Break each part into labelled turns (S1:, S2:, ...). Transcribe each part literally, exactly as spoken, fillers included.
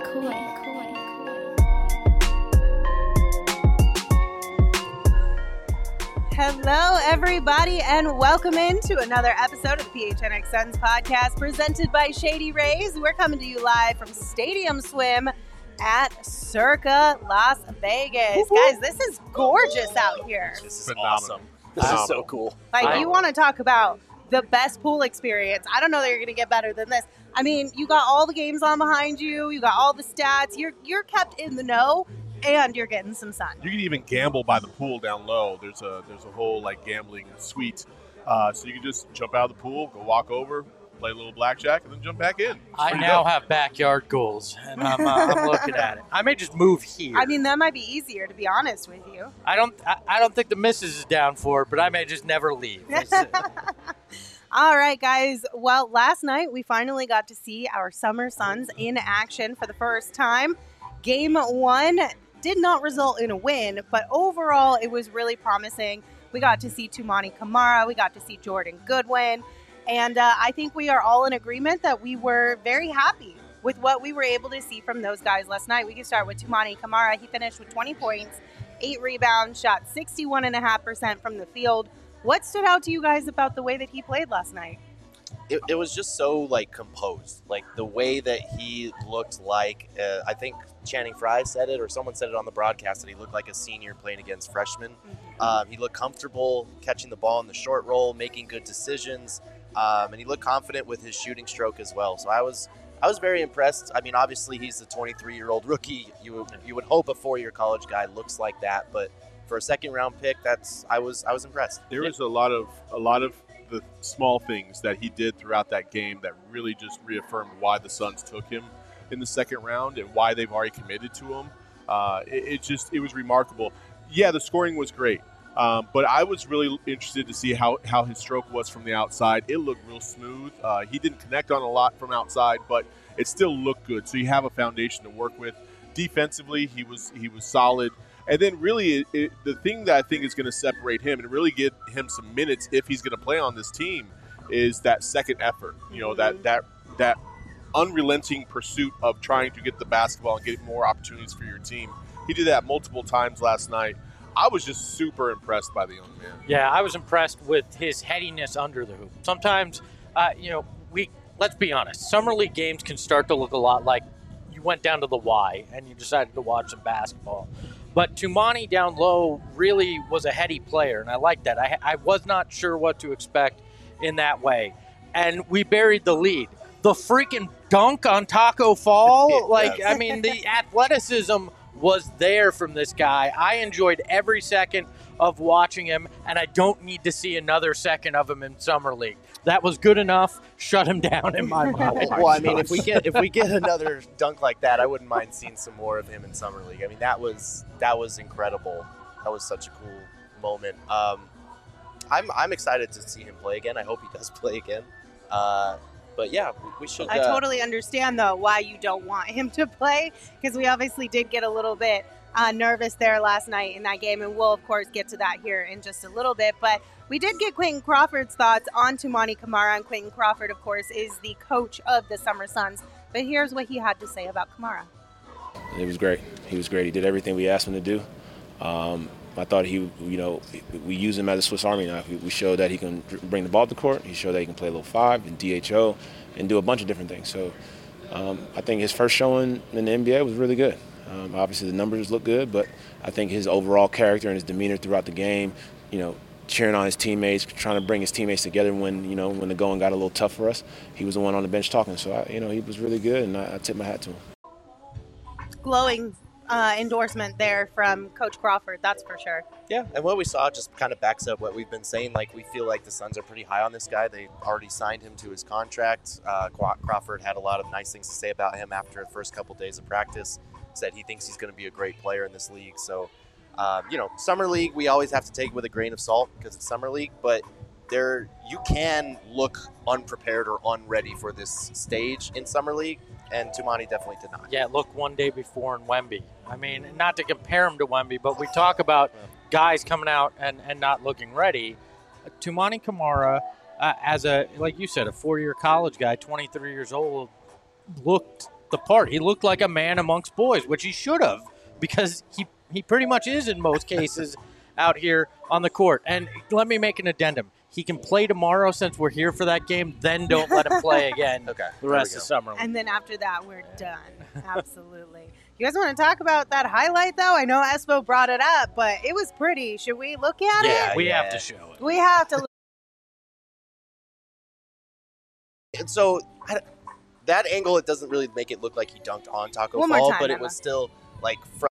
S1: Hello, everybody, and welcome into another episode of the P H N X Suns podcast presented by Shady Rays. We're coming to you live from Stadium Swim at Circa Las Vegas. Woo-hoo. Guys, this is gorgeous out here.
S2: This is Phenomenal. Awesome. This
S3: Phenomenal.
S2: is so cool.
S1: Like,
S2: I,
S1: you want to talk about the best pool experience. I don't know that you're going to get better than this. I mean, you got all the games on behind you. You got all the stats. You're you're kept in the know, and you're getting some sun.
S3: You can even gamble by the pool down low. There's a there's a whole like gambling suite, uh, so you can just jump out of the pool, go walk over, play a little blackjack, and then jump back in. It's
S4: I
S3: pretty
S4: now
S3: dope.
S4: have backyard goals, and I'm, uh, I'm looking at it. I may just move here.
S1: I mean, that might be easier, to be honest with you.
S4: I don't I, I don't think the missus is down for it, but I may just never leave.
S1: All right, guys. Well, last night we finally got to see our Summer Suns in action for the first time. Game one did not result in a win, but overall it was really promising. We got to see Toumani Camara. We got to see Jordan Goodwin. And uh, I think we are all in agreement that we were very happy with what we were able to see from those guys last night. We can start with Toumani Camara. He finished with twenty points, eight rebounds, shot sixty-one point five percent from the field. What stood out to you guys about the way that he played last night?
S2: it, it was just so like composed, like the way that he looked like. Uh, I think Channing Frye said it, or someone said it on the broadcast, that he looked like a senior playing against freshmen. Mm-hmm. Um, he looked comfortable catching the ball in the short roll, making good decisions, um, and he looked confident with his shooting stroke as well. So I was. I was very impressed. I mean, obviously he's a twenty-three-year-old rookie. You would, you would hope a four-year college guy looks like that, but for a second-round pick, that's I was I was impressed.
S3: There was a lot of a lot of the small things that he did throughout that game that really just reaffirmed why the Suns took him in the second round and why they've already committed to him. Uh, it, it just it was remarkable. Yeah, the scoring was great, um, but I was really interested to see how, how his stroke was from the outside. It looked real smooth. Uh, he didn't connect on a lot from outside, but it still looked good. So you have a foundation to work with. Defensively, he was he was solid. And then really it, it, the thing that I think is going to separate him and really get him some minutes if he's going to play on this team is that second effort. You know, that that that unrelenting pursuit of trying to get the basketball and get more opportunities for your team. He did that multiple times last night. I was just super impressed by the young man.
S4: Yeah, I was impressed with his headiness under the hoop. Sometimes, uh, you know, we let's be honest, summer league games can start to look a lot like you went down to the Y and you decided to watch some basketball. But Toumani down low really was a heady player, and I like that. I, I was not sure what to expect in that way. And we buried the lead. The freaking dunk on Taco Fall, like, I mean, the athleticism was there from this guy. I enjoyed every second of watching him, and I don't need to see another second of him in Summer League. That was good enough. Shut him down in my mind.
S2: Well, I mean, if we get if we get another dunk like that, I wouldn't mind seeing some more of him in Summer League. I mean, that was that was incredible. That was such a cool moment. Um, I'm I'm excited to see him play again. I hope he does play again. Uh, but yeah, we, we should.
S1: I
S2: uh,
S1: totally understand though why you don't want him to play, because we obviously did get a little bit uh, nervous there last night in that game, and we'll of course get to that here in just a little bit. But we did get Quentin Crawford's thoughts on Toumani Camara, and Quentin Crawford, of course, is the coach of the Summer Suns. But here's what he had to say about Camara.
S5: It was great. He was great. He did everything we asked him to do. Um, I thought he, you know, we use him as a Swiss Army knife. We showed that he can bring the ball to the court. He showed that he can play a little five and D H O and do a bunch of different things. So um, I think his first showing in the N B A was really good. Um, obviously the numbers look good, but I think his overall character and his demeanor throughout the game, you know, cheering on his teammates, trying to bring his teammates together when, you know, when the going got a little tough for us. He was the one on the bench talking. So, I, you know, he was really good, and I, I tip my hat to him.
S1: Glowing uh, endorsement there from Coach Crawford, that's for sure.
S2: Yeah, and what we saw just kind of backs up what we've been saying. Like, we feel like the Suns are pretty high on this guy. They already signed him to his contract. Uh, Crawford had a lot of nice things to say about him after the first couple days of practice. Said he thinks he's going to be a great player in this league. So, um, you know, Summer League, we always have to take with a grain of salt because it's Summer League. But there, you can look unprepared or unready for this stage in Summer League. And Toumani definitely did not.
S4: Yeah, look one day before in Wemby. I mean, not to compare him to Wemby, but we talk about guys coming out and, and not looking ready. Uh, Toumani Camara, uh, as a, like you said, a four-year college guy, twenty-three years old, looked looked the part. He looked like a man amongst boys, which he should have, because he, he pretty much is in most cases out here on the court. And let me make an addendum. He can play tomorrow since we're here for that game, then don't let him play again
S2: Okay,
S4: the
S2: there
S4: rest
S2: we
S4: of
S2: go.
S4: summer.
S1: And then after that, we're done. Absolutely. You guys want to talk about that highlight, though? I know Espo brought it up, but it was pretty. Should we look at
S4: Yeah,
S1: it?
S4: we
S2: yeah.
S4: have to show it.
S1: We have to.
S2: And so I, that angle, it doesn't really make it look like he dunked on Taco
S1: One more
S2: Fall,
S1: time,
S2: but it
S1: Emma.
S2: was still like from.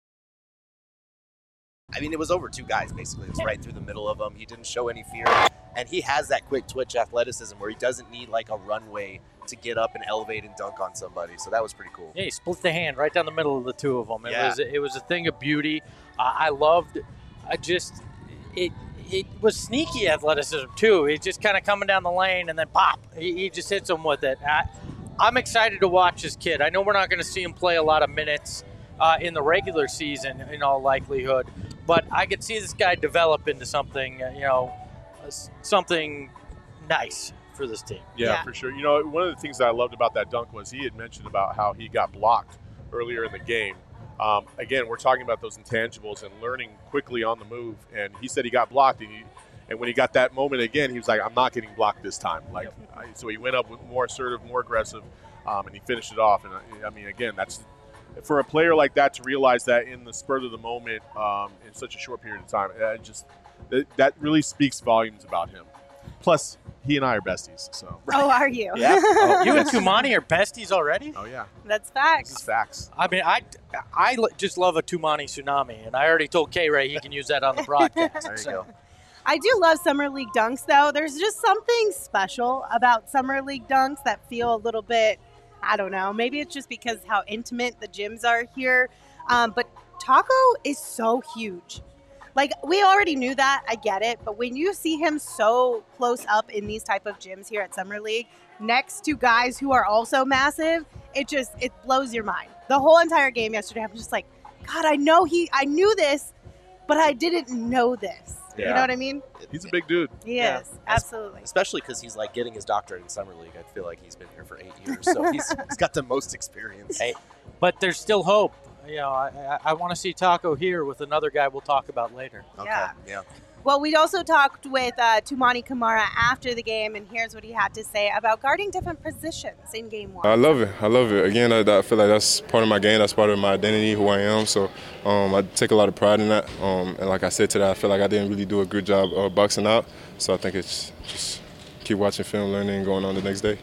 S2: I mean, it was over two guys basically. It was right through the middle of them. He didn't show any fear, and he has that quick twitch athleticism where he doesn't need like a runway to get up and elevate and dunk on somebody. So that was pretty cool.
S4: Yeah, he split the hand right down the middle of the two of them. It
S2: Yeah.
S4: was it was a thing of beauty. Uh, I loved. I just it it was sneaky athleticism too. He's just kind of coming down the lane and then pop. He, he just hits him with it. I, I'm excited to watch this kid. I know we're not going to see him play a lot of minutes uh, in the regular season, in all likelihood, but I could see this guy develop into something. Uh, you know, uh, something nice for this team.
S3: Yeah,
S1: Yeah.
S3: for sure. You know, one of the things that I loved about that dunk was he had mentioned about how he got blocked earlier in the game. Um, again, we're talking about those intangibles and learning quickly on the move. And he said he got blocked, and, he, and when he got that moment again, he was like, "I'm not getting blocked this time." Like, I, so he went up with more assertive, more aggressive, um, and he finished it off. And I, I mean, again, that's for a player like that to realize that in the spur of the moment, um, in such a short period of time. It just that, that really speaks volumes about him. Plus, he and I are besties, so.
S1: Oh, are you?
S2: Yeah.
S4: Oh, you and Tumani are besties already?
S3: Oh yeah,
S1: That's
S3: this is
S1: facts.
S3: facts.
S4: I mean, I, I l- just love a Tumani tsunami, and I already told K-Ray he can use that on the broadcast.
S2: There you
S4: So,
S2: go.
S1: I do love Summer League dunks, though. There's just something special about Summer League dunks that feel a little bit, I don't know, maybe it's just because how intimate the gyms are here. Um, but Taco is so huge. Like, we already knew that. I get it. But when you see him so close up in these type of gyms here at Summer League, next to guys who are also massive, it just, it blows your mind. The whole entire game yesterday, I was just like, God, I know he, I knew this, but I didn't know this. You
S2: Yeah.
S1: know what I mean?
S3: He's a big dude.
S1: He
S2: Yeah.
S1: is. Absolutely.
S2: Especially because he's like getting his doctorate in summer league. I feel like he's been here for eight years, so he's, he's got the most experience.
S4: Hey, but there's still hope. You know, I, I, I want to see Taco here with another guy we'll talk about later.
S2: Okay.
S1: Yeah.
S2: Yeah.
S1: Well, we also talked with uh, Tumani Kamara after the game, and here's what he had to say about guarding different positions in game one.
S6: I love it. I love it. Again, I, I feel like that's part of my game. That's part of my identity, who I am. So um, I take a lot of pride in that. Um, and like I said today, I feel like I didn't really do a good job uh, boxing out. So I think it's just keep watching film, learning, and going on the next day.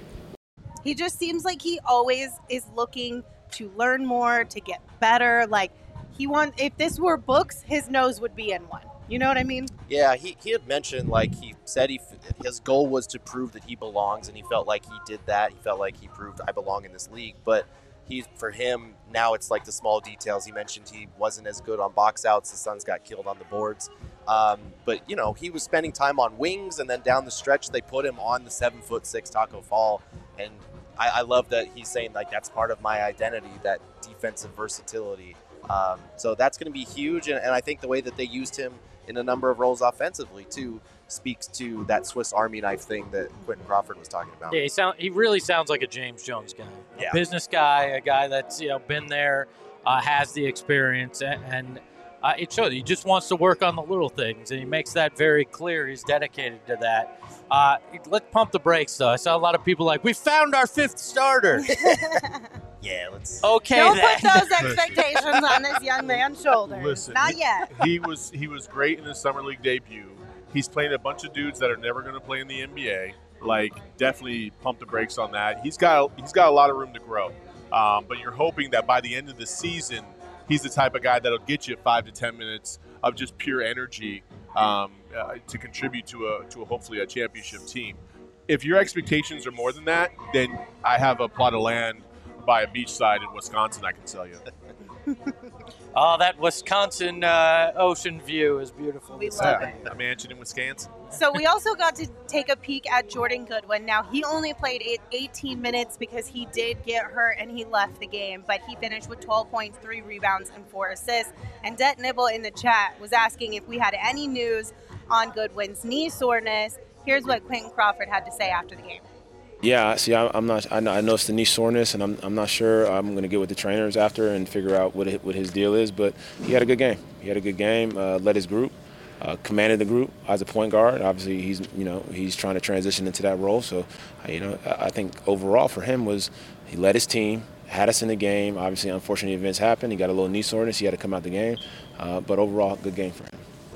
S1: He just seems like he always is looking to learn more, to get better. Like, he wants, if this were books, his nose would be in one. You know what I mean?
S2: Yeah, he, he had mentioned, like, he said he his goal was to prove that he belongs, and he felt like he did that. He felt like he proved I belong in this league. But he, for him, now it's like the small details. He mentioned he wasn't as good on box outs. The Suns got killed on the boards. Um, but, you know, he was spending time on wings, and then down the stretch, they put him on the seven foot six Taco Fall. And I, I love that he's saying, like, that's part of my identity, that defensive versatility. Um, so that's going to be huge. And, and I think the way that they used him in a number of roles offensively too speaks to that Swiss Army knife thing that Quentin Crawford was talking about.
S4: Yeah, he sound he really sounds like a James Jones guy,
S2: Yeah.
S4: a business guy, a guy that's you know been there, uh, has the experience, and, and uh, it shows. He just wants to work on the little things, and he makes that very clear. He's dedicated to that. Uh, let's pump the brakes, though. I saw a lot of people like, "We found our fifth starter."
S2: Yeah, let's.
S4: Okay,
S1: Don't
S4: then.
S1: put those expectations on this young man's shoulders.
S3: Listen,
S1: Not
S3: he-
S1: yet.
S3: he was he was great in his summer league debut. He's playing a bunch of dudes that are never going to play in the N B A. Like, definitely pump the brakes on that. He's got he's got a lot of room to grow. Um, but you're hoping that by the end of the season, he's the type of guy that'll get you five to ten minutes of just pure energy um, uh, to contribute to a to a, hopefully a championship team. If your expectations are more than that, then I have a plot of land by a beachside in Wisconsin I can sell you.
S4: Oh, that Wisconsin uh, ocean view is beautiful.
S1: We
S4: to
S1: love
S4: see.
S1: it.
S3: A mansion in Wisconsin.
S1: So we also got to take a peek at Jordan Goodwin. Now, he only played it eighteen minutes because he did get hurt and he left the game, but he finished with twelve points, three rebounds, and four assists. And Det Nibble in the chat was asking if we had any news on Goodwin's knee soreness. Here's what Quentin Crawford had to say after the game.
S5: Yeah, see, I, I'm not. I know, I know it's the knee soreness, and I'm. I'm not sure. I'm going to get with the trainers after and figure out what it, what his deal is. But he had a good game. He had a good game. Uh, led his group, uh, commanded the group as a point guard. Obviously, he's you know he's trying to transition into that role. So, you know, I, I think overall for him was he led his team, had us in the game. Obviously, unfortunate events happened. He got a little knee soreness. He had to come out the game. Uh, but overall, good game for him.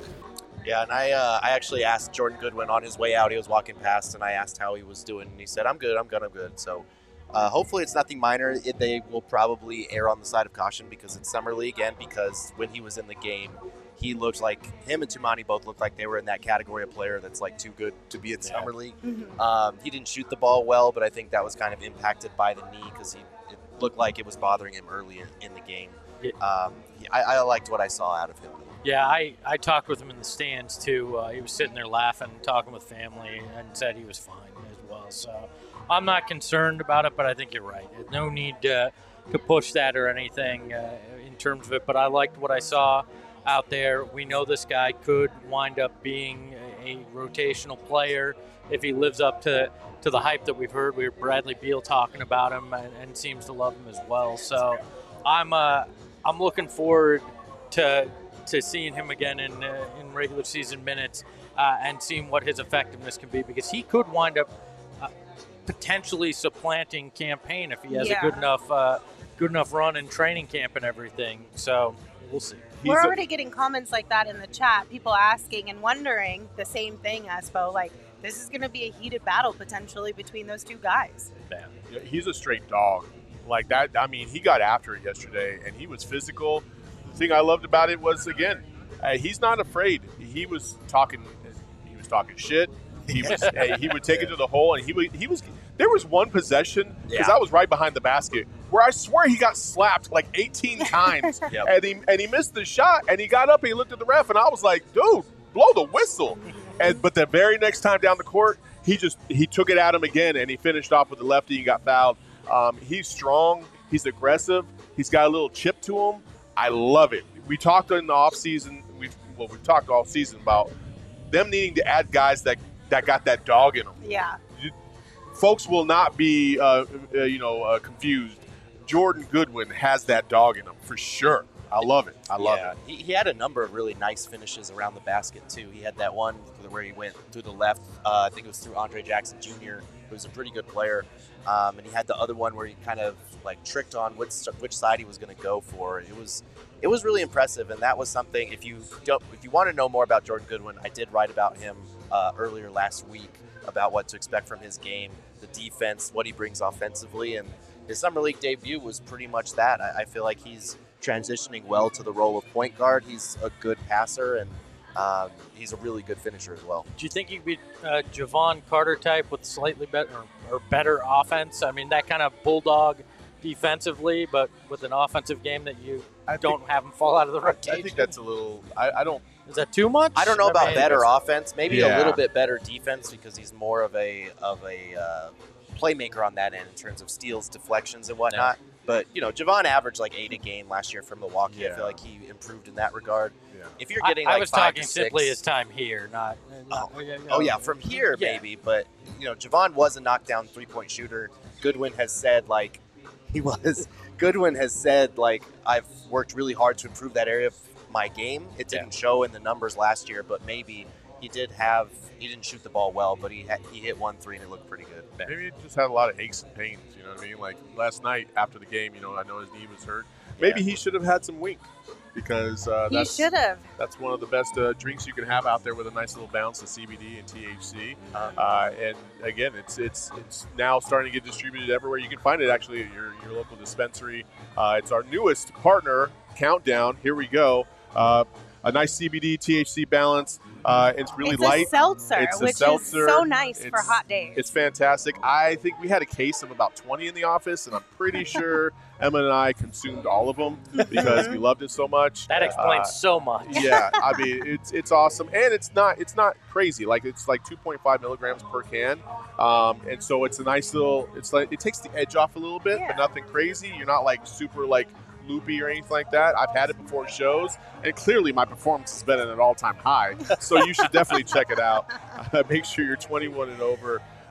S2: Yeah, and I uh, I actually asked Jordan Goodwin on his way out. He was walking past, and I asked how he was doing, and he said, "I'm good. I'm good. I'm good." So, uh, hopefully, it's nothing minor. It, they will probably err on the side of caution because it's summer league, and because when he was in the game, he looked like him and Tumani both looked like they were in that category of player that's like too good to be in yeah. summer league. Mm-hmm. Um, he didn't shoot the ball well, but I think that was kind of impacted by the knee because he it looked like it was bothering him early in, in the game. Yeah. Um, I, I liked what I saw out of him.
S4: Yeah, I, I talked with him in the stands, too. Uh, he was sitting there laughing, talking with family, and said he was fine as well. So I'm not concerned about it, but I think you're right. There's no need to, to push that or anything uh, in terms of it. But I liked what I saw out there. We know this guy could wind up being a, a rotational player if he lives up to, to the hype that we've heard. We heard Bradley Beal talking about him and, and seems to love him as well. So I'm uh, I'm looking forward to – to seeing him again in uh, in regular season minutes uh, and seeing what his effectiveness can be, because he could wind up uh, potentially supplanting Campaign if he has yeah. a good enough uh, good enough run in training camp and everything. So we'll see.
S1: We're He's already a- getting comments like that in the chat, people asking and wondering the same thing, Espo, like this is going to be a heated battle potentially between those two guys.
S3: Yeah, he's a straight dog. Like that, I mean, he got after it yesterday, and he was physical. The thing I loved about it was, again, uh, he's not afraid. He was talking, he was talking shit. He was, uh, he would take it to the hole, and he would, he was. There was one possession because yeah. I was right behind the basket where I swear he got slapped like eighteen times, yep. and he and he missed the shot, and he got up and he looked at the ref, and I was like, dude, blow the whistle. And but the very next time down the court, he just he took it at him again, and he finished off with the lefty and got fouled. Um, he's strong. He's aggressive. He's got a little chip to him. I love it. We talked in the offseason, we've well, we've talked all season about them needing to add guys that, that got that dog in them.
S1: Yeah.
S3: You, folks will not be, uh, uh, you know, uh, confused. Jordan Goodwin has that dog in him for sure. I love it. I love
S2: yeah.
S3: it.
S2: He, he had a number of really nice finishes around the basket, too. He had that one where he went through the left. Uh, I think it was through Andre Jackson Junior, who's a pretty good player. Um, and he had the other one where he kind of like tricked on which which side he was going to go for. It was it was really impressive, and that was something. If you don't, if you want to know more about Jordan Goodwin, I did write about him uh, earlier last week about what to expect from his game, the defense, what he brings offensively, and his summer league debut was pretty much that. I, I feel like he's transitioning well to the role of point guard. He's a good passer, and um, he's a really good finisher as well.
S4: Do you think he could be uh, Javon Carter type with slightly better or, or better offense? I mean, that kind of bulldog defensively, but with an offensive game that you I don't think, have him fall out of the rotation.
S3: I think that's a little. I, I don't.
S4: Is that too much?
S2: I don't know
S4: I
S2: about
S4: mean,
S2: better offense. Maybe
S3: yeah.
S2: a little bit better defense because he's more of a of a uh, playmaker on that end in terms of steals, deflections, and whatnot. Yeah. But, you know, Javon averaged like eight a game last year from Milwaukee. Yeah. I feel like he improved in that regard.
S3: Yeah.
S2: If you're getting
S4: I,
S2: like
S4: I was
S2: five
S4: talking
S2: to
S4: simply
S2: six,
S4: his time here, not. not
S2: oh,
S4: you know,
S2: oh, yeah, from here
S4: yeah.
S2: maybe. But, you know, Javon was a knockdown three-point shooter. Goodwin has said, like, he was. Goodwin has said, like, I've worked really hard to improve that area of my game. It didn't yeah. show in the numbers last year, but maybe he did have. He didn't shoot the ball well, but he had, he hit one three and it looked pretty good.
S3: Maybe he just had a lot of aches and pains. You know what I mean? Like last night after the game, you know, I know his knee was hurt. Maybe yeah. he should have had some wink because uh,
S1: he
S3: that's
S1: should have.
S3: That's one of the best uh, drinks you can have out there with a nice little bounce of C B D and T H C. Uh, and again, it's it's it's now starting to get distributed everywhere. You can find it actually at your your local dispensary. Uh, it's our newest partner, Countdown. Here we go. Uh, a nice C B D T H C balance. Uh, it's really
S1: it's
S3: light.
S1: A seltzer,
S3: it's a
S1: which
S3: seltzer.
S1: is so nice
S3: it's,
S1: for hot days.
S3: It's fantastic. I think we had a case of about twenty in the office, and I'm pretty sure Emma and I consumed all of them because we loved it so much.
S4: That explains
S3: uh,
S4: so much.
S3: Yeah, I mean it's it's awesome, and it's not it's not crazy. Like it's like two point five milligrams per can, um, and so it's a nice little. It's like it takes the edge off a little bit, yeah. but nothing crazy. You're not like super like. loopy or anything like that. I've had it before shows, and clearly my performance has been at an all-time high. So you should definitely check it out. Uh, make sure you're twenty-one and over.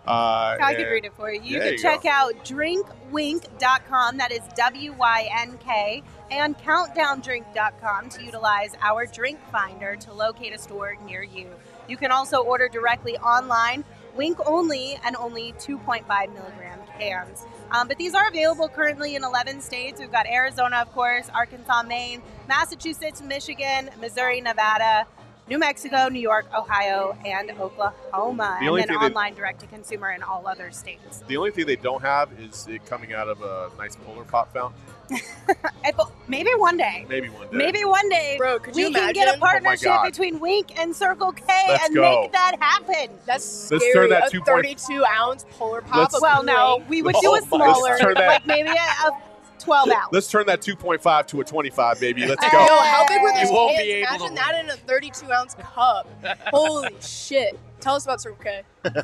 S3: Uh,
S1: I can
S3: and-
S1: read it for you. You
S3: There
S1: can
S3: you
S1: check
S3: go.
S1: out drink wink dot com. That is W Y N K. And countdown drink dot com to utilize our drink finder to locate a store near you. You can also order directly online, Wink only, and only two point five milligram cans. Um, but these are available currently in eleven states. We've got Arizona, of course, Arkansas, Maine, Massachusetts, Michigan, Missouri, Nevada, New Mexico, New York, Ohio, and Oklahoma.
S3: The
S1: And
S3: only
S1: then
S3: thing that-
S1: online direct-to-consumer in all other states.
S3: The only thing they don't have is it coming out of a nice Polar Pop fountain.
S1: And po- Maybe one day.
S3: Maybe one day.
S1: Maybe one day
S7: Bro, could
S1: we
S7: you
S1: can
S7: imagine?
S1: get a
S3: Oh my
S1: partnership
S3: God.
S1: between Wink and Circle K
S3: Let's
S1: and
S3: go.
S1: make that happen.
S7: That's
S3: Let's
S7: scary.
S3: turn that
S7: a
S3: two point-
S7: thirty-two ounce Polar Pop.
S3: Let's-
S7: of
S1: Well, no,
S7: Wink.
S1: we would
S2: Oh
S1: do a
S2: my-
S1: smaller,
S3: Let's turn that-
S1: like maybe a, a twelve ounce.
S3: Let's turn that two point five to a twenty-five, baby. Let's
S1: Hey.
S3: go.
S7: Yo, how big were
S1: You
S7: those
S4: won't
S7: cans?
S4: be able
S7: Imagine
S4: to
S7: that in a thirty-two ounce cup. Holy shit. Tell us about Circle K.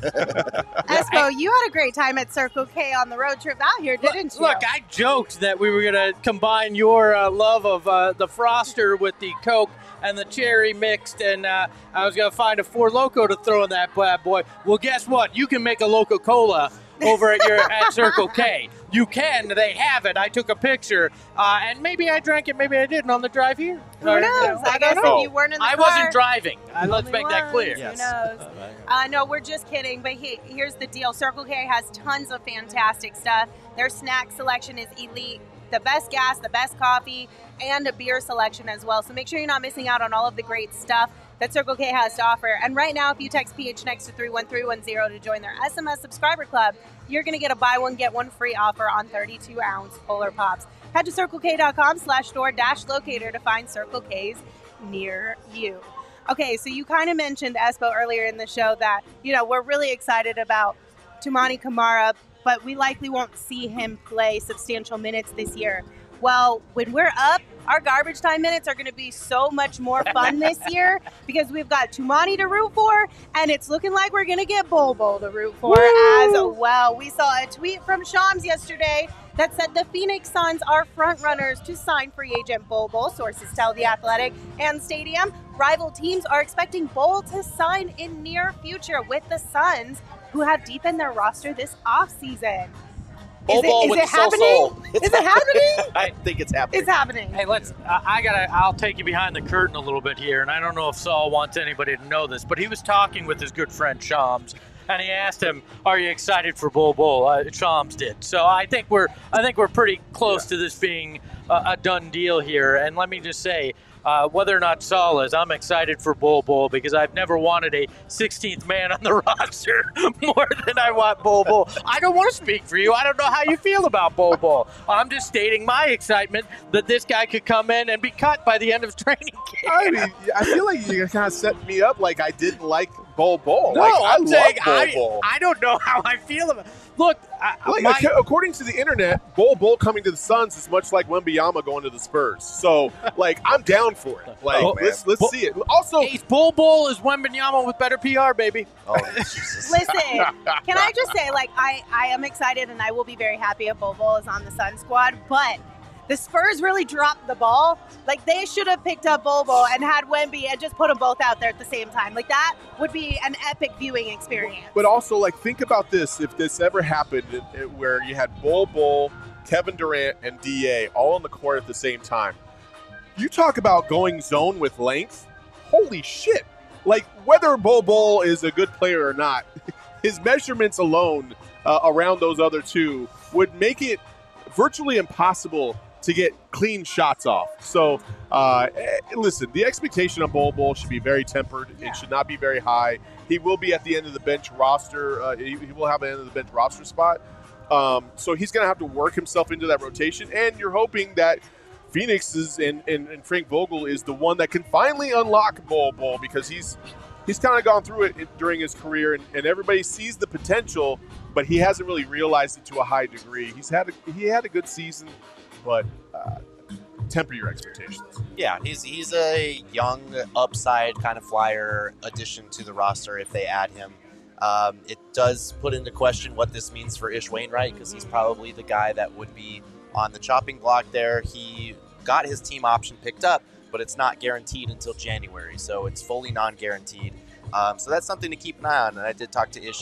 S1: Espo, you had a great time at Circle K on the road trip out here, didn't you?
S4: Look, I joked that we were going to combine your uh, love of uh, the Froster with the Coke and the cherry mixed, and uh, I was going to find a Four Loko to throw in that bad boy. Well, guess what? You can make a Loco Cola over at your at Circle K. You can. They have it. I took a picture, uh, and maybe I drank it, maybe I didn't on the drive here.
S1: Who knows? I guess
S3: know.
S1: if you weren't in the
S4: I
S1: car,
S4: wasn't driving. Uh, let's
S1: only
S4: make that
S1: one.
S4: clear.
S2: Yes.
S1: Who knows? Uh, no, we're just kidding. But he, here's the deal: Circle K has tons of fantastic stuff. Their snack selection is elite. The best gas, the best coffee, and a beer selection as well. So make sure you're not missing out on all of the great stuff that Circle K has to offer. And right now, if you text P H next to three one three one zero to join their S M S subscriber club, you're going to get a buy one, get one free offer on thirty-two ounce Polar Pops. Head to circle k dot com slash store dash locator to find Circle K's near you. Okay, so you kind of mentioned, Espo, earlier in the show that, you know, we're really excited about Tumani Kamara, but we likely won't see him play substantial minutes this year. Well, when we're up, our garbage time minutes are going to be so much more fun this year because we've got Tumani to root for, and it's looking like we're going to get Bol Bol to root for as well. We saw a tweet from Shams yesterday that said the Phoenix Suns are front runners to sign free agent Bol Bol. Sources tell The Athletic and Stadium. Rival teams are expecting Bol to sign in near future with the Suns, who have deepened their roster this offseason.
S2: Bol
S1: Is it-
S2: Bol
S1: is
S2: with
S1: it
S2: the soul
S1: happening?
S2: soul. It's
S1: Is it happening?
S2: I think it's happening.
S1: It's happening.
S4: Hey, let's. I, I gotta. I'll take you behind the curtain a little bit here, and I don't know if Saul wants anybody to know this, but he was talking with his good friend Shams, and he asked him, "Are you excited for Bol Bol?" Uh, Shams did. So I think we're. I think we're pretty close to this being a, a done deal here. And let me just say, uh, whether or not Saul is, I'm excited for Bol Bol because I've never wanted a sixteenth man on the roster more than I want Bol Bol. I don't want to speak for you. I don't know how you feel about Bol Bol. I'm just stating my excitement that this guy could come in and be cut by the end of training camp.
S3: I mean, I feel like you kind of set me up like I didn't like Bol Bol.
S4: No,
S3: like,
S4: I'm
S3: I
S4: saying
S3: love Bol
S4: I,
S3: Bol.
S4: I don't know how I feel about. Look, I,
S3: Like,
S4: my,
S3: ac- according to the internet, Bol Bol coming to the Suns is much like Wembanyama going to the Spurs. So, like, I'm down for it. Like,
S4: Oh,
S3: let's let's
S4: Bol-
S3: see it. Also,
S4: Hey, Bol Bol is Wembanyama with better P R, baby.
S2: Oh, Jesus.
S1: Listen, can I just say, like, I, I am excited and I will be very happy if Bol Bol is on the Sun squad, but the Spurs really dropped the ball. Like, they should have picked up Bol Bol and had Wemby and just put them both out there at the same time. Like, that would be an epic viewing experience.
S3: but also, like, think about this: if this ever happened, it, it- where you had Bol Bol, Kevin Durant, and D A all on the court at the same time, you talk about going zone with length. Holy shit! Like, whether Bol Bol is a good player or not, his measurements alone uh, around those other two would make it virtually impossible to get clean shots off. So, uh, eh, listen, the expectation on Bol Bol should be very tempered.
S1: Yeah.
S3: It should not be very high. He will be at the end of the bench roster. Uh, he, he will have an end of the bench roster spot. Um, so he's going to have to work himself into that rotation. And you're hoping that Phoenix is and, and, and Frank Vogel is the one that can finally unlock Bol Bol, because he's he's kind of gone through it during his career, and, and everybody sees the potential, but he hasn't really realized it to a high degree. He's had a, he had a good season, but uh, temper your expectations.
S2: Yeah, he's he's a young upside kind of flyer addition to the roster if they add him. Um, it does put into question what this means for Ish Wainwright, because he's probably the guy that would be on the chopping block there. He got his team option picked up, but it's not guaranteed until January, so it's fully non-guaranteed. Um, so that's something to keep an eye on. And I did talk to Ish at,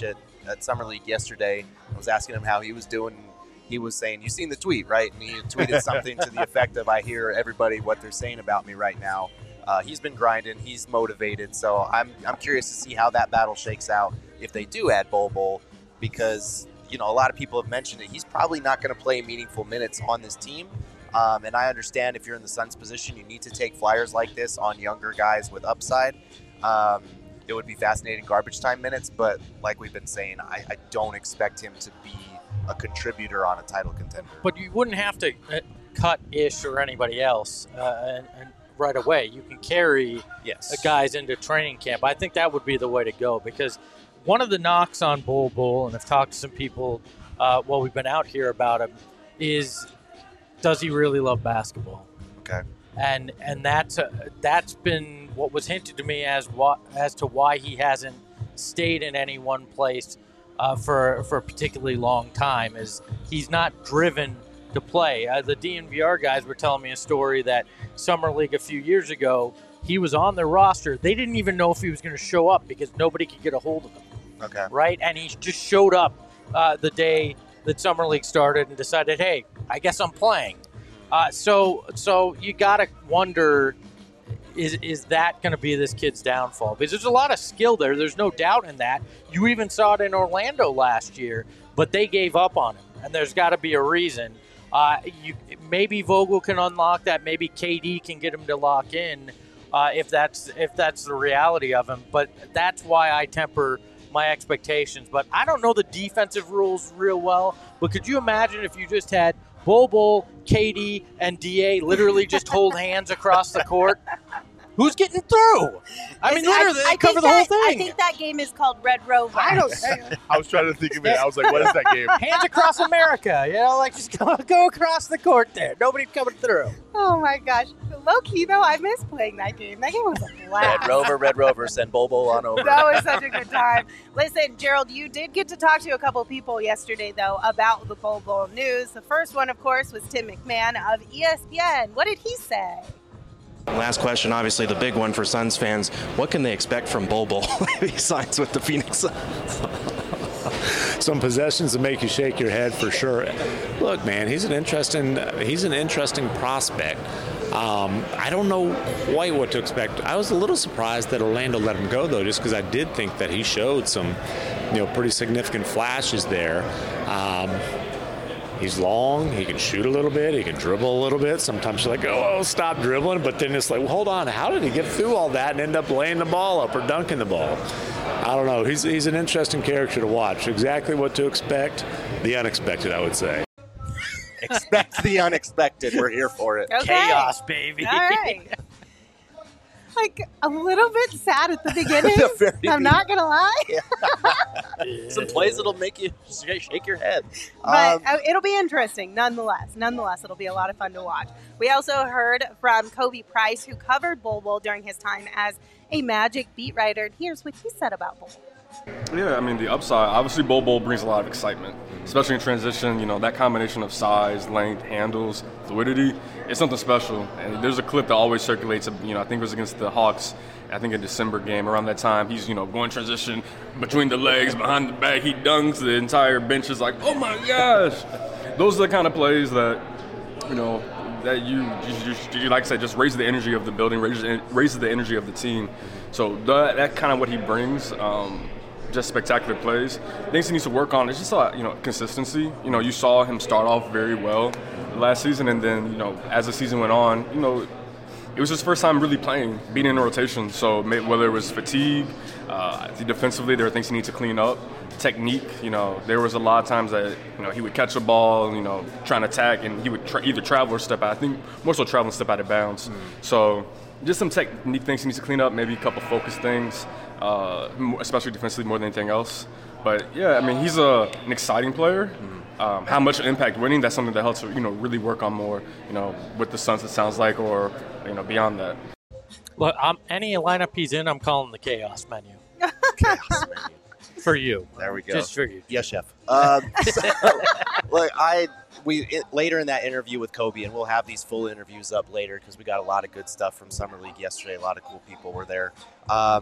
S2: at Summer League yesterday. I was asking him how he was doing. He was saying, "You seen the tweet, right?" And he tweeted something to the effect of, "I hear everybody what they're saying about me right now." Uh, he's been grinding. He's motivated. So I'm I'm curious to see how that battle shakes out if they do add Bol Bol, because you know a lot of people have mentioned it. He's probably not going to play meaningful minutes on this team. Um, and I understand if you're in the Suns' position, you need to take flyers like this on younger guys with upside. Um, it would be fascinating garbage time minutes, but like we've been saying, I, I don't expect him to be a contributor on a title contender.
S4: But you wouldn't have to uh, cut Ish or anybody else uh, and, and right away. You can carry
S2: yes.
S4: uh, guys into training camp. I think that would be the way to go, because one of the knocks on Bol Bol, and I've talked to some people uh, while we've been out here about him, is does he really love basketball?
S2: Okay.
S4: And and that's uh, that's been what was hinted to me as what as to why he hasn't stayed in any one place uh, for for a particularly long time, is he's not driven to play. Uh, the D N V R guys were telling me a story that Summer League a few years ago, he was on their roster. They didn't even know if he was going to show up because nobody could get a hold of him.
S2: Okay.
S4: Right? And he just showed up uh, the day that Summer League started and decided, hey, I guess I'm playing. Uh, so so you got to wonder, is is that going to be this kid's downfall? Because there's a lot of skill there. There's no doubt in that. You even saw it in Orlando last year, but they gave up on him, and there's got to be a reason. Uh, you maybe Vogel can unlock that. Maybe K D can get him to lock in uh, if that's if that's the reality of him. But that's why I temper my expectations. But I don't know the defensive rules real well. But could you imagine if you just had Bol Bol, K D, and D A literally just hold hands across the court? Who's getting through? I mean, literally,
S1: I, I
S4: they cover the
S1: that,
S4: whole thing.
S1: I think that game is called Red Rover.
S4: I don't.
S3: I was trying to think of it. I was like, what is that game?
S4: Hands across America. You know, like just go, go across the court there. Nobody's coming through.
S1: Oh my gosh. Low key though, I miss playing that game. That game was a blast.
S2: Red Rover, Red Rover, send Bol Bol on over.
S1: That was such a good time. Listen, Gerald, you did get to talk to a couple people yesterday, though, about the Bol Bol news. The first one, of course, was Tim McMahon of E S P N. What did he say?
S8: Last question, obviously the big one for Suns fans. What can they expect from Bol Bol if he signs with the Phoenix Suns?
S9: Some possessions that make you shake your head for sure. Look, man, he's an interesting he's an interesting prospect. Um, I don't know quite what to expect. I was a little surprised that Orlando let him go, though, just because I did think that he showed some, you know, pretty significant flashes there. Um, He's long, he can shoot a little bit, he can dribble a little bit. Sometimes you're like, oh, stop dribbling. But then it's like, well, hold on, how did he get through all that and end up laying the ball up or dunking the ball? I don't know. He's, he's an interesting character to watch. Exactly what to expect. The unexpected, I would say.
S2: Expect the unexpected. We're here for it.
S1: Okay.
S4: Chaos, baby.
S1: All right. Like a little bit sad at the beginning.
S2: The very
S1: I'm not gonna lie.
S2: Some plays that'll make you shake your head.
S1: But
S2: Um,
S1: uh, it'll be interesting nonetheless. Nonetheless, it'll be a lot of fun to watch. We also heard from Kobe Price, who covered Bol Bol during his time as a Magic beat writer. And here's what he said about Bol.
S10: Yeah, I mean, the upside, obviously Bol Bol brings a lot of excitement, especially in transition. You know, that combination of size, length, handles, fluidity, it's something special. And there's a clip that always circulates, you know, I think it was against the Hawks, I think a December game. Around that time, he's, you know, going transition between the legs, behind the back, he dunks, the entire bench is like, oh my gosh. Those are the kind of plays that, you know, that you, you, you, you like I said, just raises the energy of the building, raises, raises the energy of the team. So that, that kind of what he brings. Um, just spectacular plays. Things he needs to work on is just uh, you know consistency. You know, you saw him start off very well last season, and then you know as the season went on, you know, it was his first time really playing, being in a rotation. So whether it was fatigue, uh, defensively, there were things he needs to clean up. Technique, you know, there was a lot of times that you know he would catch a ball, you know, trying to attack, and he would tra- either travel or step out. I think more so travel and step out of bounds. Mm-hmm. So just some technique things he needs to clean up, maybe a couple focus things. Uh, especially defensively more than anything else. But yeah, I mean, he's a, an exciting player. Mm-hmm. Um, how much impact winning, that's something that helps you know really work on more, you know, with the Suns, it sounds like, or you know, beyond that.
S4: Look, um, any lineup he's in, I'm calling the chaos menu.
S2: Chaos menu.
S4: For you.
S2: There we go.
S4: Just for you.
S2: Yes, chef. Um, so, look, I we it, later in that interview with Kobe, and we'll have these full interviews up later because we got a lot of good stuff from Summer League yesterday. A lot of cool people were there. Um,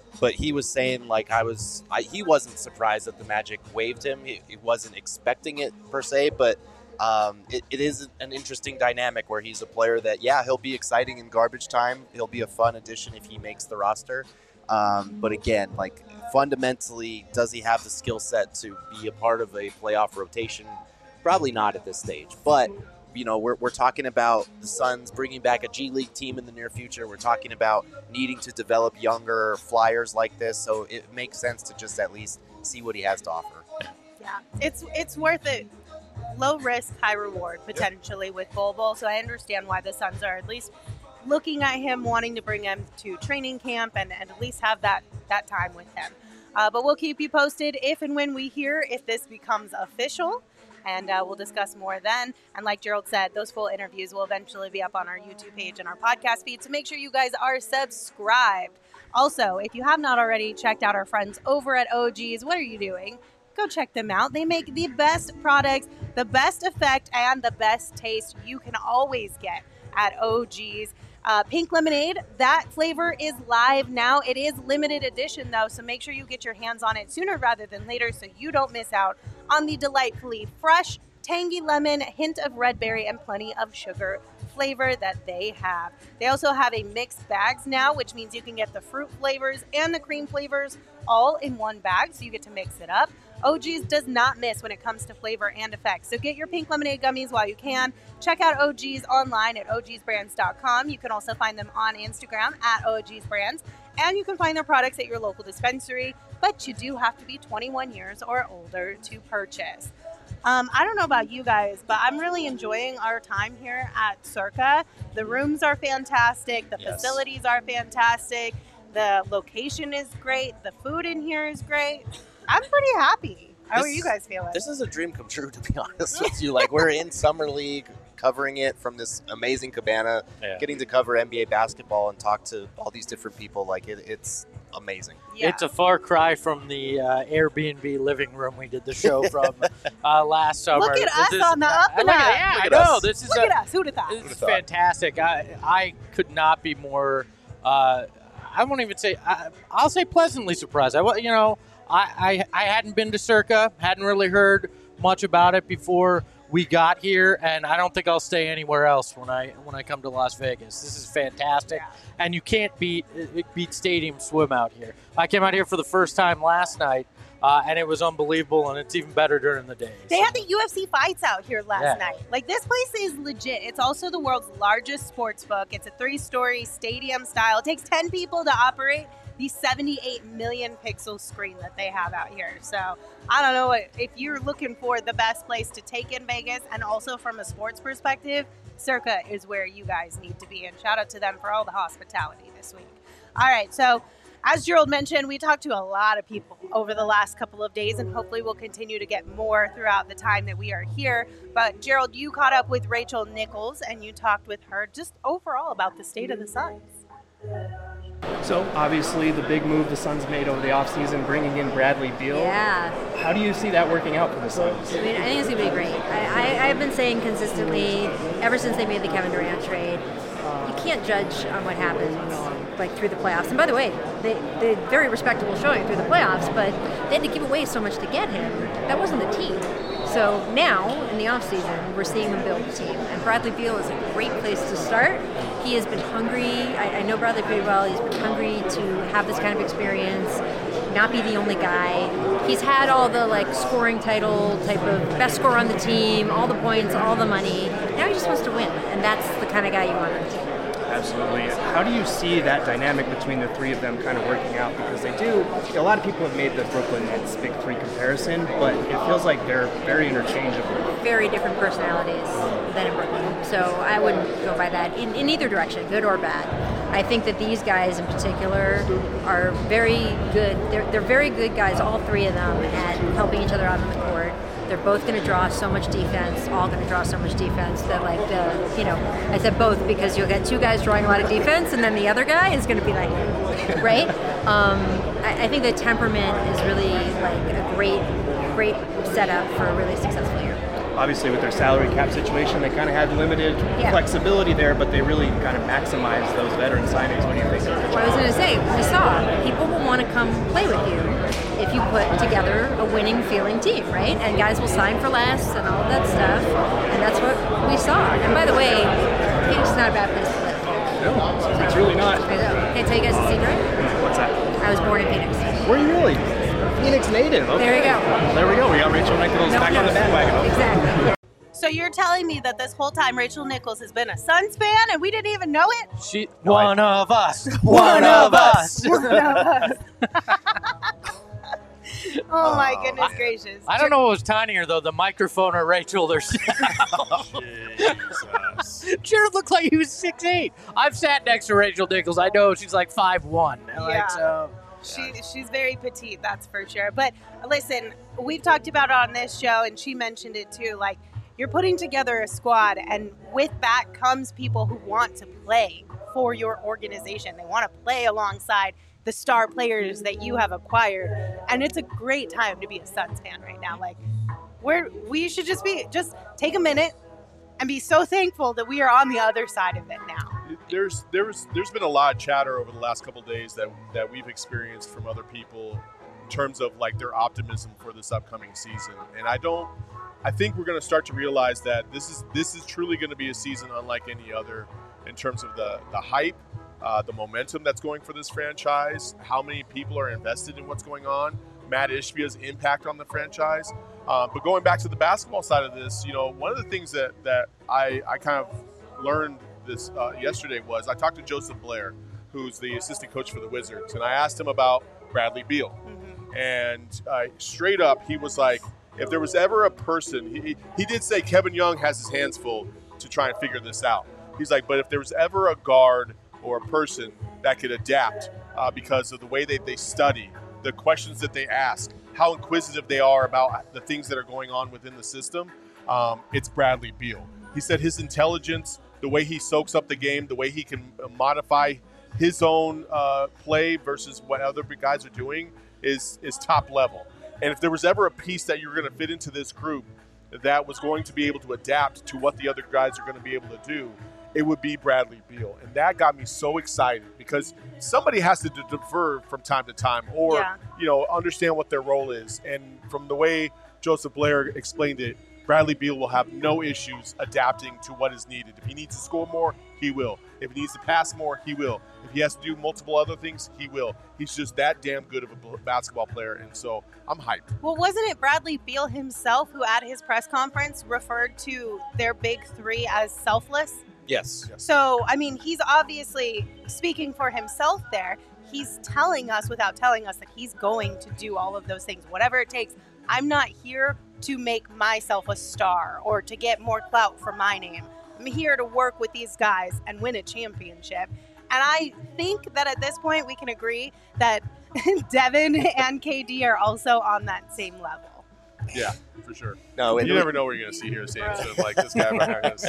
S2: but he was saying like I was, I, he wasn't surprised that the Magic waived him. He, he wasn't expecting it per se, but um, it, it is an interesting dynamic where he's a player that, yeah, he'll be exciting in garbage time. He'll be a fun addition if he makes the roster. Um, but again, like fundamentally, does he have the skill set to be a part of a playoff rotation? Probably not at this stage, but you know, we're, we're talking about the Suns bringing back a G League team in the near future. We're talking about needing to develop younger flyers like this. So it makes sense to just at least see what he has to offer.
S1: Yeah, it's it's worth it. Low risk, high reward potentially with Bol Bol. So I understand why the Suns are at least looking at him, wanting to bring him to training camp and, and at least have that, that time with him. Uh, but we'll keep you posted if and when we hear if this becomes official. And uh, we'll discuss more then. And like Gerald said, those full interviews will eventually be up on our YouTube page and our podcast feed. So make sure you guys are subscribed. Also, if you have not already checked out our friends over at O G's, what are you doing? Go check them out. They make the best products, the best effect, and the best taste you can always get at O G's. Uh, pink lemonade, that flavor is live now. It is limited edition though, so make sure you get your hands on it sooner rather than later so you don't miss out on the delightfully fresh, tangy lemon, hint of red berry, and plenty of sugar flavor that they have. They also have a mixed bags now, which means you can get the fruit flavors and the cream flavors all in one bag, so you get to mix it up. O G's does not miss when it comes to flavor and effects. So get your pink lemonade gummies while you can. Check out O G's online at O Gs brands dot com. You can also find them on Instagram at O Gs brands. And you can find their products at your local dispensary. But you do have to be twenty-one years or older to purchase. Um, I don't know about you guys, but I'm really enjoying our time here at Circa. The rooms are fantastic. The
S2: Yes.
S1: facilities are fantastic. The location is great. The food in here is great. I'm pretty happy. How are
S2: This-
S1: you guys feeling?
S2: This is a dream come true, to be honest with you. Like, we're in Summer League, covering it from this amazing cabana,
S4: Yeah.
S2: getting to cover N B A basketball and talk to all these different people. Like, it, it's amazing.
S1: Yeah.
S4: It's a far cry from the uh, Airbnb living room we did the show from uh, last summer.
S1: Look at
S4: This
S1: us
S4: is-
S1: on the up and
S4: look at-
S1: up.
S4: Yeah,
S2: Look
S4: I
S2: at
S4: know.
S2: us.
S4: This is
S1: Look
S4: a,
S1: at us. Who'd have thought?
S4: This is fantastic. I I could not be more. Uh, I won't even say. I, I'll say pleasantly surprised. I wa- you know I, I I hadn't been to Circa, hadn't really heard much about it before we got here, and I don't think I'll stay anywhere else when I when I come to Las Vegas. This is fantastic, and you can't beat beat Stadium Swim out here. I came out here for the first time last night, uh, and it was unbelievable, and it's even better during the day.
S1: They
S4: So-
S1: had the U F C fights out here last
S4: Yeah.
S1: night. Like, this place is legit. It's also the world's largest sports book. It's a three-story stadium style. It takes ten people to operate the seventy-eight million pixel screen that they have out here. So I don't know what, if you're looking for the best place to take in Vegas, and also from a sports perspective, Circa is where you guys need to be. And shout out to them for all the hospitality this week. All right, so as Gerald mentioned, we talked to a lot of people over the last couple of days, and hopefully we'll continue to get more throughout the time that we are here. But Gerald, you caught up with Rachel Nichols, and you talked with her just overall about the state of the Suns.
S11: So obviously the big move the Suns made over the offseason, bringing in Bradley Beal.
S12: Yeah.
S11: How do you see that working out for the Suns?
S12: I mean, I think it's going to be great. I, I, I've been saying consistently, ever since they made the Kevin Durant trade, you can't judge on what happens like through the playoffs. And by the way, they, they had very respectable showing through the playoffs, but they had to give away so much to get him. That wasn't the team. So now, in the offseason, we're seeing them build a team. And Bradley Beal is a great place to start. He has been hungry. I, I know Bradley pretty well. He's been hungry to have this kind of experience, not be the only guy. He's had all the like scoring title type of best scorer on the team, all the points, all the money. Now he just wants to win, and that's the kind of guy you want on the team.
S11: Absolutely. How do you see that dynamic between the three of them kind of working out? Because they do, a lot of people have made the Brooklyn Nets Big Three comparison, but it feels like they're very interchangeable.
S12: Very different personalities than in Brooklyn. So I wouldn't go by that in, in either direction, good or bad. I think that these guys in particular are very good. They're, they're very good guys, all three of them, at helping each other out on the court. They're both going to draw so much defense, all going to draw so much defense that, like, the, you know, I said both because you'll get two guys drawing a lot of defense and then the other guy is going to be like, right? Um, I, I think the temperament is really, like, a great, great setup for a really successful year.
S11: obviously with their salary cap situation, they kind of had limited
S12: Yeah.
S11: flexibility there, but they really kind of maximized those veteran signings. What do you think?
S12: What I was going to say, we saw people will want to come play with you if you put together a winning feeling team, right? And guys will sign for less and all of that stuff, and that's what we saw. And by the way, Phoenix is not a bad place to live.
S11: No, it's really not.
S12: I know. Can I tell you guys a secret?
S11: What's that?
S12: I was born in Phoenix.
S11: Were you really? Phoenix native. Okay.
S12: There you go.
S11: Well, there we go. We got Rachel Nichols
S12: No
S11: back
S12: one
S11: on the
S12: knows.
S11: bandwagon.
S12: Exactly.
S1: So you're telling me that this whole time Rachel Nichols has been a Suns fan and we didn't even know it?
S4: She, one of us.
S1: One
S4: of us.
S1: One of us. Oh my goodness gracious.
S4: I don't know what was tinier though, the microphone or Rachel herself. Jared looked like he was six eight. I've sat next to Rachel Nichols. I know she's like five one. Like,
S1: Yeah.
S4: so,
S1: She, she's very petite, that's for sure. But listen, we've talked about it on this show, and she mentioned it too. Like, you're putting together a squad, and with that comes people who want to play for your organization. They want to play alongside the star players that you have acquired, and it's a great time to be a Suns fan right now. Like, we're we should just be just take a minute and be so thankful that we are on the other side of it now.
S3: There's there's there's been a lot of chatter over the last couple of days that that we've experienced from other people in terms of like their optimism for this upcoming season, and I don't. I think we're going to start to realize that this is this is truly going to be a season unlike any other in terms of the the hype, uh, the momentum that's going for this franchise, how many people are invested in what's going on, Matt Ishbia's impact on the franchise. Uh, but going back to the basketball side of this, you know, one of the things that that I I kind of learned this uh, yesterday was I talked to Joseph Blair, who's the assistant coach for the Wizards, and I asked him about Bradley Beal, mm-hmm. and uh, straight up he was like, if there was ever a person, he, he did say Kevin Young has his hands full to try and figure this out. He's like, but if there was ever a guard or a person that could adapt uh, because of the way they, they study, the questions that they ask, how inquisitive they are about the things that are going on within the system, um, it's Bradley Beal. He said his intelligence, the way he soaks up the game, the way he can modify his own uh, play versus what other guys are doing is is top level. And if there was ever a piece that you were going to fit into this group that was going to be able to adapt to what the other guys are going to be able to do, it would be Bradley Beal. And that got me so excited because somebody has to defer from time to time or, yeah. you know, understand what their role is. And from the way Joseph Blair explained it, Bradley Beal will have no issues adapting to what is needed. If he needs to score more, he will. If he needs to pass more, he will. If he has to do multiple other things, he will. He's just that damn good of a basketball player, and so I'm hyped.
S1: Well, wasn't it Bradley Beal himself who at his press conference referred to their big three as selfless?
S2: Yes.
S1: So, I mean, he's obviously speaking for himself there. He's telling us without telling us that he's going to do all of those things, whatever it takes. I'm not here to make myself a star or to get more clout for my name. I'm here to work with these guys and win a championship. And I think that at this point we can agree that Devin and K D are also on that same level.
S3: Yeah, for sure.
S2: No,
S3: you never know what you're going to see here, Sam. So like this guy right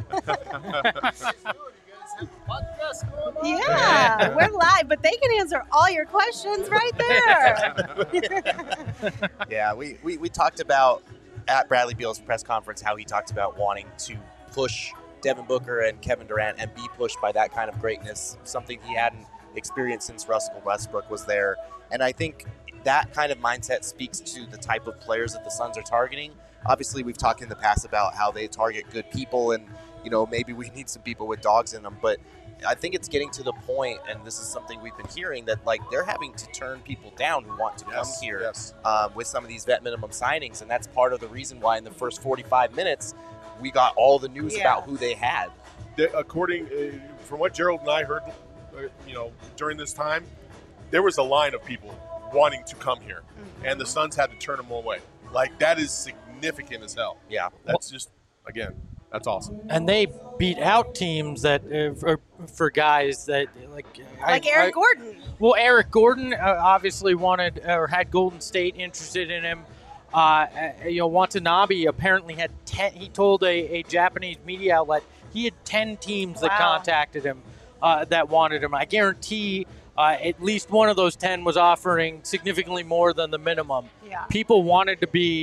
S3: here.
S1: Yeah, we're live, but they can answer all your questions right there.
S2: Yeah, we, we, we talked about at Bradley Beal's press conference how he talked about wanting to push Devin Booker and Kevin Durant and be pushed by that kind of greatness, something he hadn't experienced since Russell Westbrook was there. And I think that kind of mindset speaks to the type of players that the Suns are targeting. Obviously, we've talked in the past about how they target good people and, you know, maybe we need some people with dogs in them. But I think it's getting to the point, and this is something we've been hearing, that, like, they're having to turn people down who want to
S3: yes,
S2: come here
S3: yes.
S2: um, with some of these vet minimum signings. And that's part of the reason why in the first forty-five minutes we got all the news
S1: yeah.
S2: about who they had.
S3: The, according, uh, from what Gerald and I heard, uh, you know, during this time, there was a line of people wanting to come here, mm-hmm. and the Suns had to turn them away. Like, that is significant as hell.
S2: Yeah.
S3: That's just, again, that's awesome.
S4: And they beat out teams that uh, for, for guys that like
S1: like
S4: I,
S1: Eric
S4: I,
S1: Gordon.
S4: Well, Eric Gordon uh, obviously wanted or had Golden State interested in him. Uh, you know, Watanabe apparently had ten. He told a, a Japanese media outlet he had ten teams that
S1: Wow.
S4: contacted him uh, that wanted him. I guarantee uh, at least one of those ten was offering significantly more than the minimum.
S1: Yeah.
S4: People wanted to be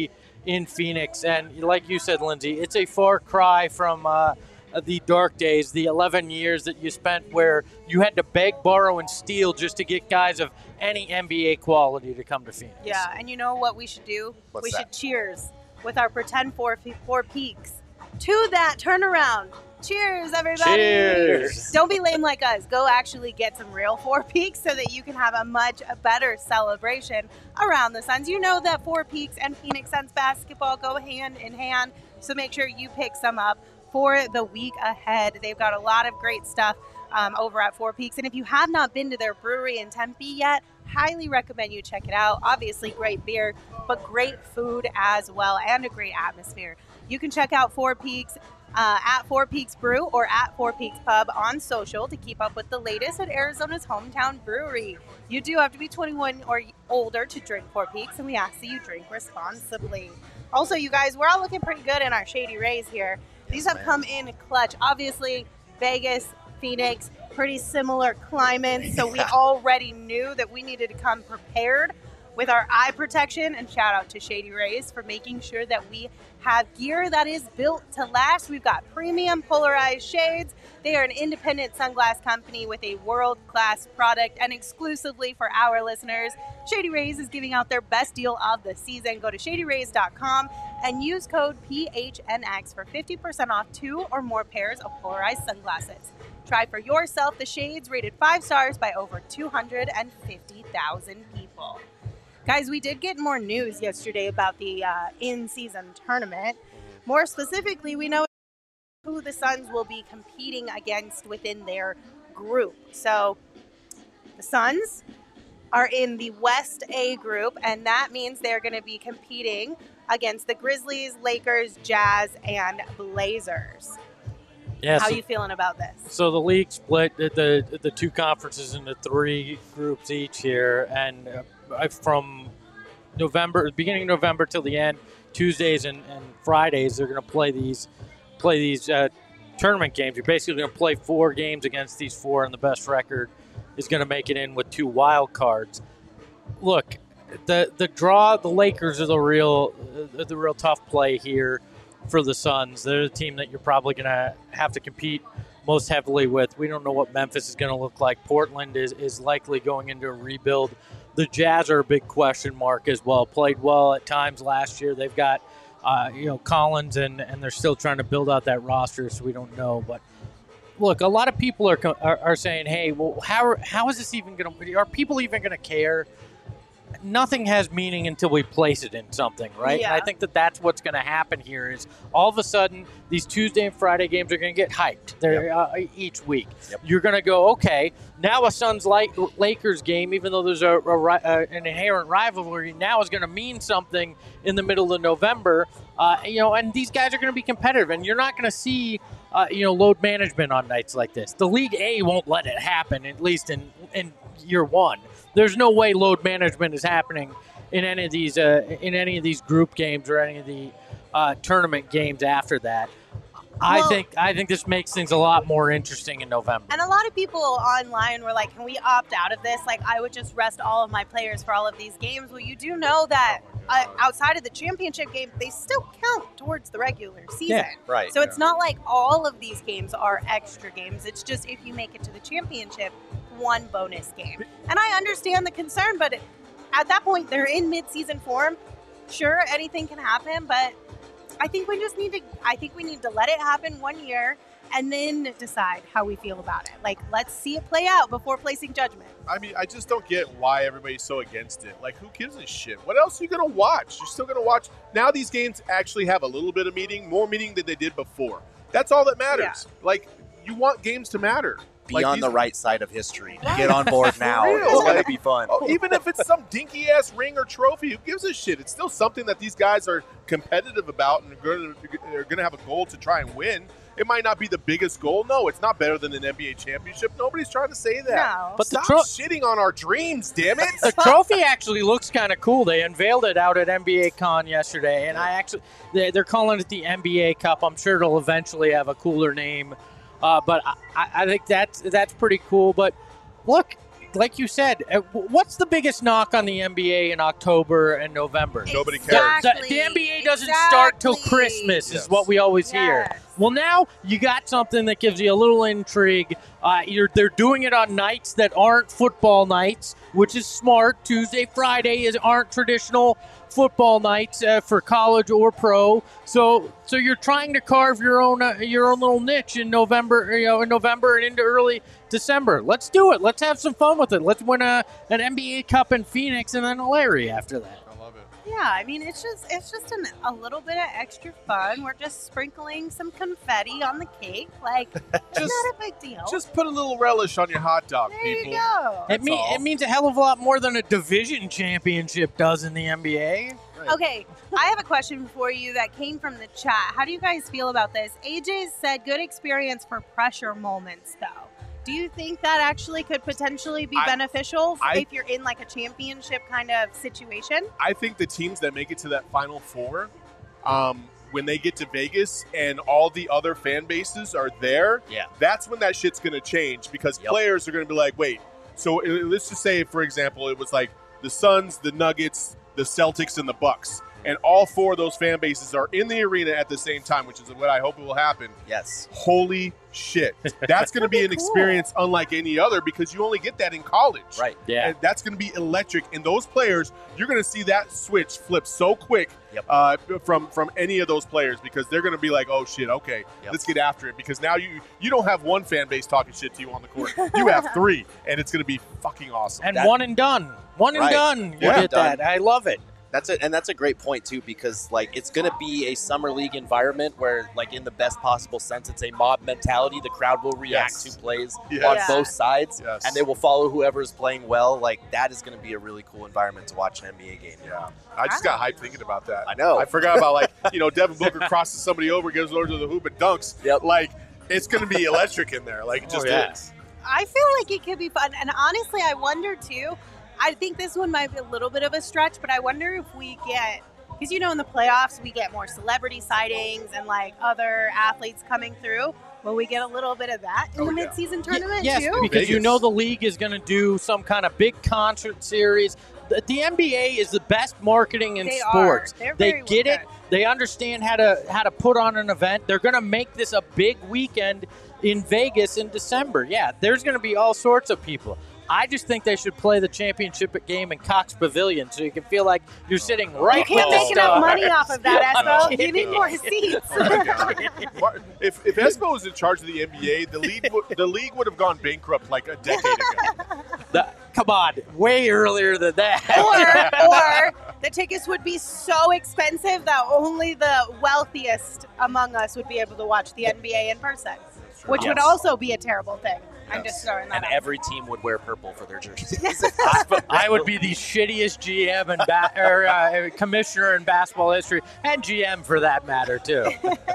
S4: in Phoenix. And like you said, Lindsay, it's a far cry from uh, the dark days, the eleven years that you spent where you had to beg, borrow, and steal just to get guys of any N B A quality to come to Phoenix.
S1: Yeah, and you know what we should do?
S2: What's
S1: we
S2: that?
S1: should cheers with our pretend four, four peaks to that turnaround. Cheers, everybody.
S4: Cheers.
S1: Don't be lame like us. Go actually get some real Four Peaks so that you can have a much better celebration around the Suns. You know that Four Peaks and Phoenix Suns basketball go hand in hand, so make sure you pick some up for the week ahead. They've got a lot of great stuff um, over at Four Peaks, and if you have not been to their brewery in Tempe yet, highly recommend you check it out. Obviously great beer, but great food as well, and a great atmosphere. You can check out Four Peaks Uh, at Four Peaks Brew or at Four Peaks Pub on social to keep up with the latest at Arizona's hometown brewery. You do have to be twenty-one or older to drink Four Peaks, and we ask that you drink responsibly. Also, you guys, we're all looking pretty good in our Shady Rays here. These have come in clutch. Obviously, Vegas, Phoenix, pretty similar climates, so we already knew that we needed to come prepared with our eye protection, and shout out to Shady Rays for making sure that we have gear that is built to last. We've got premium polarized shades. They are an independent sunglass company with a world-class product, and exclusively for our listeners, Shady Rays is giving out their best deal of the season. Go to shady rays dot com and use code P H N X for fifty percent off two or more pairs of polarized sunglasses. Try for yourself the shades rated five stars by over two hundred fifty thousand people. Guys, we did get more news yesterday about the uh, in-season tournament. More specifically, we know who the Suns will be competing against within their group. So the Suns are in the West A group, and that means they're going to be competing against the Grizzlies, Lakers, Jazz, and Blazers.
S4: Yeah,
S1: How
S4: so,
S1: are you feeling about this?
S4: So the league split the, the the two conferences into three groups each here, and uh, from November, beginning of November till the end, Tuesdays and, and Fridays, they're going to play these play these uh, tournament games. You're basically going to play four games against these four, and the best record is going to make it in with two wild cards. Look, the the draw, the Lakers are the real uh, the real tough play here for the Suns. They're the team that you're probably going to have to compete most heavily with. We don't know what Memphis is going to look like. Portland is, is likely going into a rebuild. The Jazz are a big question mark as well. Played well at times last year. They've got uh, you know Collins, and, and they're still trying to build out that roster, so we don't know. But look, a lot of people are are, are saying, hey, well, how, how is this even going to – are people even going to care? Nothing has meaning until we place it in something, right?
S1: Yeah.
S4: And I think that that's what's going to happen here is all of a sudden these Tuesday and Friday games are going to get hyped They're,
S2: Yep.
S4: uh, each week.
S2: Yep.
S4: You're going to go, okay, now a Suns Lakers game, even though there's a, a, a an inherent rivalry, now is going to mean something in the middle of November. Uh, you know, and these guys are going to be competitive, and you're not going to see uh, you know load management on nights like this. The League A won't let it happen, at least in in year one. There's no way load management is happening in any of these uh, in any of these group games or any of the uh, tournament games after that. I
S1: Well-
S4: think I think this makes things a lot more interesting in November.
S1: And a lot of people online were like, can we opt out of this? Like, I would just rest all of my players for all of these games. Well, you do know that uh, outside of the championship game, they still count towards the regular season.
S4: Yeah,
S2: right,
S1: So it's not like all of these games are extra games. It's just if you make it to the championship, one bonus game. And I understand the concern, but at that point, they're in mid-season form. Sure, anything can happen, but I think we just need to I think we need to let it happen one year and then decide how we feel about it. Like, let's see it play out before placing judgment.
S3: I mean, I just don't get why everybody's so against it. Like, who gives a shit? What else are you going to watch? You're still going to watch. Now these games actually have a little bit of meaning, more meaning than they did before. That's all that matters. Like, you want games to matter.
S2: Be
S3: Like,
S2: on
S3: these-
S2: the right side of history. Get on board now.
S3: real.
S2: It's going to
S3: Like-
S2: be fun.
S3: Oh, even if it's some dinky ass ring or trophy, who gives a shit? It's still something that these guys are competitive about and are going to, they're going to have a goal to try and win. It might not be the biggest goal. No, it's not better than an N B A championship. Nobody's trying to say that.
S1: No.
S4: But the
S3: Stop
S4: tro-
S3: shitting on our dreams, damn it.
S4: The trophy actually looks kind of cool. They unveiled it out at N B A Con yesterday, and I actually they- they're calling it the N B A Cup. I'm sure it'll eventually have a cooler name, uh, but I, I think that's that's pretty cool. But look, like you said, uh, what's the biggest knock on the N B A in October and November?
S3: Nobody cares.
S4: The, the N B A doesn't start till Christmas,
S3: Yes.
S4: is what we always hear.
S1: Yes.
S4: Well, now you got something that gives you a little intrigue. Uh, you're, they're doing it on nights that aren't football nights, which is smart. Tuesday, Friday is aren't traditional football nights uh, for college or pro. So, so you're trying to carve your own uh, your own little niche in November, you know, in November and into early December. Let's do it. Let's have some fun with it. Let's win a an N B A Cup in Phoenix and then a Larry after that.
S1: Yeah, I mean, it's just it's just an, a little bit of extra fun. We're just sprinkling some confetti on the cake. Like, it's
S3: Just-
S1: not a big deal.
S3: Just put a little relish on your hot dog,
S1: there
S3: people.
S1: you go.
S4: It, mean, it means a hell of a lot more than a division championship does in the N B A.
S1: Okay, I have a question for you that came from the chat. How do you guys feel about this? A J said good experience for pressure moments, though. Do you think that actually could potentially be
S3: I-
S1: beneficial
S3: I-
S1: if you're in like a championship kind of situation?
S3: I think the teams that make it to that Final Four, um, when they get to Vegas and all the other fan bases are there,
S2: Yeah.
S3: that's when that shit's going to change because
S2: Yep.
S3: players are going to be like, wait, so uh, let's just say, for example, it was like the Suns, the Nuggets, the Celtics, and the Bucks. And all four of those fan bases are in the arena at the same time, which is what I hope will happen.
S2: Yes.
S3: Holy shit. That's going to be an experience unlike any other because you only get that in college.
S2: Right.
S4: Yeah.
S3: And that's going to be electric. And those players, you're going to see that switch flip so quick
S2: Yep.
S3: uh, from from any of those players because they're going to be like, oh, shit, okay,
S2: Yep.
S3: let's get after it. Because now you you don't have one fan base talking shit to you on the court. You have three, and it's going to be fucking awesome.
S4: And
S2: That-
S4: one and done. One and
S2: Right.
S4: done. You
S3: Yeah.
S4: get that. I love it.
S2: That's it, and that's a great point too, because like it's going to be a summer league environment where, like in the best possible sense, it's a mob mentality. The crowd will react
S3: Yes.
S2: to plays
S3: Yes.
S2: on
S1: Yeah.
S2: both sides,
S3: Yes.
S2: and they will follow whoever is playing well. Like that is going to be a really cool environment to watch an N B A game.
S3: Yeah. I just got hyped thinking about that.
S2: I know.
S3: I forgot about, like, you know, Devin Booker crosses somebody over, gives over to the hoop and dunks.
S2: Yep.
S3: Like, it's going to be electric in there. Like, it just
S4: Oh, yeah.
S3: is.
S1: I feel like it could be fun. And honestly, I wonder too. I think this one might be a little bit of a stretch, but I wonder if we get, because you know, in the playoffs, we get more celebrity sightings and like other athletes coming through. Will we get a little bit of that in
S3: Oh,
S1: the
S3: yeah.
S1: midseason tournament
S4: yes,
S1: too?
S4: because you
S3: Vegas.
S4: know the league is going to do some kind of big concert series. The, the N B A is the best marketing in
S1: They are.
S4: sports.
S1: They're
S4: They
S1: very
S4: get
S1: well
S4: it.
S1: done.
S4: They understand how to how to put on an event. They're going to make this a big weekend in Vegas in December. Yeah, there's going to be all sorts of people. I just think they should play the championship game in Cox Pavilion so you can feel like you're sitting right
S1: You can't
S4: with
S1: make
S4: the
S1: enough
S4: stars.
S1: money off of that,
S4: I'm
S1: Espo. You
S4: kidding.
S1: need more seats.
S3: Oh my God. Mar- if if Espo was in charge of the N B A, the league would, the league would have gone bankrupt like a decade ago.
S4: The- come on, way earlier than that.
S1: or, or the tickets would be so expensive that only the wealthiest among us would be able to watch the N B A in person, which would
S2: Yes.
S1: also be a thing. I'm just throwing that
S2: And
S1: out.
S2: every team would wear purple for their jerseys.
S4: I would be the shittiest G M and ba- or, uh, commissioner in basketball history, and G M for that matter too.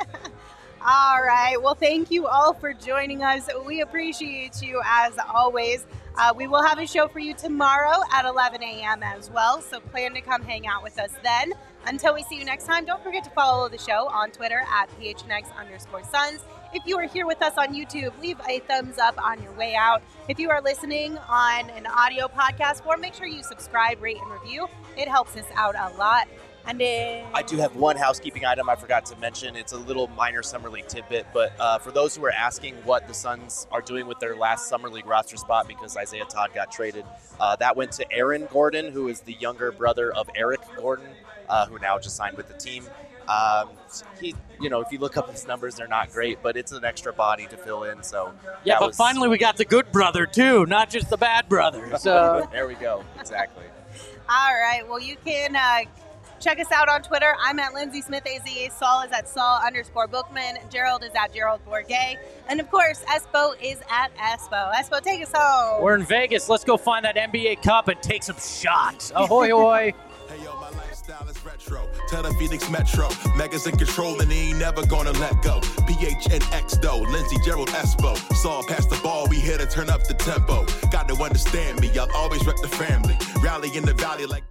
S1: All right. Well, thank you all for joining us. We appreciate you as always. Uh, we will have a show for you tomorrow at eleven a.m. as well, so plan to come hang out with us then. Until we see you next time, don't forget to follow the show on Twitter at P H N X underscore Suns. If you are here with us on YouTube, leave a thumbs up on your way out. If you are listening on an audio podcast form, make sure you subscribe, rate, and review. It helps us out a lot. And then
S2: I do have one housekeeping item I forgot to mention. It's a little minor Summer League tidbit, but uh, for those who are asking what the Suns are doing with their last Summer League roster spot because Isaiah Todd got traded, uh, that went to Aaron Gordon, who is the younger brother of Eric Gordon, uh, who now just signed with the team. Um, he, you know, if you look up his numbers, they're not great, but it's an extra body to fill in. So
S4: Yeah,
S2: that
S4: but
S2: was-
S4: finally we got the good brother too, not just the bad brother. So
S2: there we go. Exactly.
S1: All right. Well, you can uh, check us out on Twitter. I'm at Lindsay Smith A Z. Saul is at Saul underscore Bookman. Gerald is at Gerald Bourget. And of course, Espo is at Espo. Espo, take us home.
S4: we're in Vegas. Let's go find that N B A Cup and take some shots. Ahoy, ahoy.
S13: Hey yo, my lifestyle is retro. Tell the Phoenix Metro. Megas in control and he ain't never gonna let go. P H N X though, Lindsey, Gerald, Espo. Saw pass the ball, we here to turn up the tempo. Got to understand me, I'll always rep the family. Rally in the valley like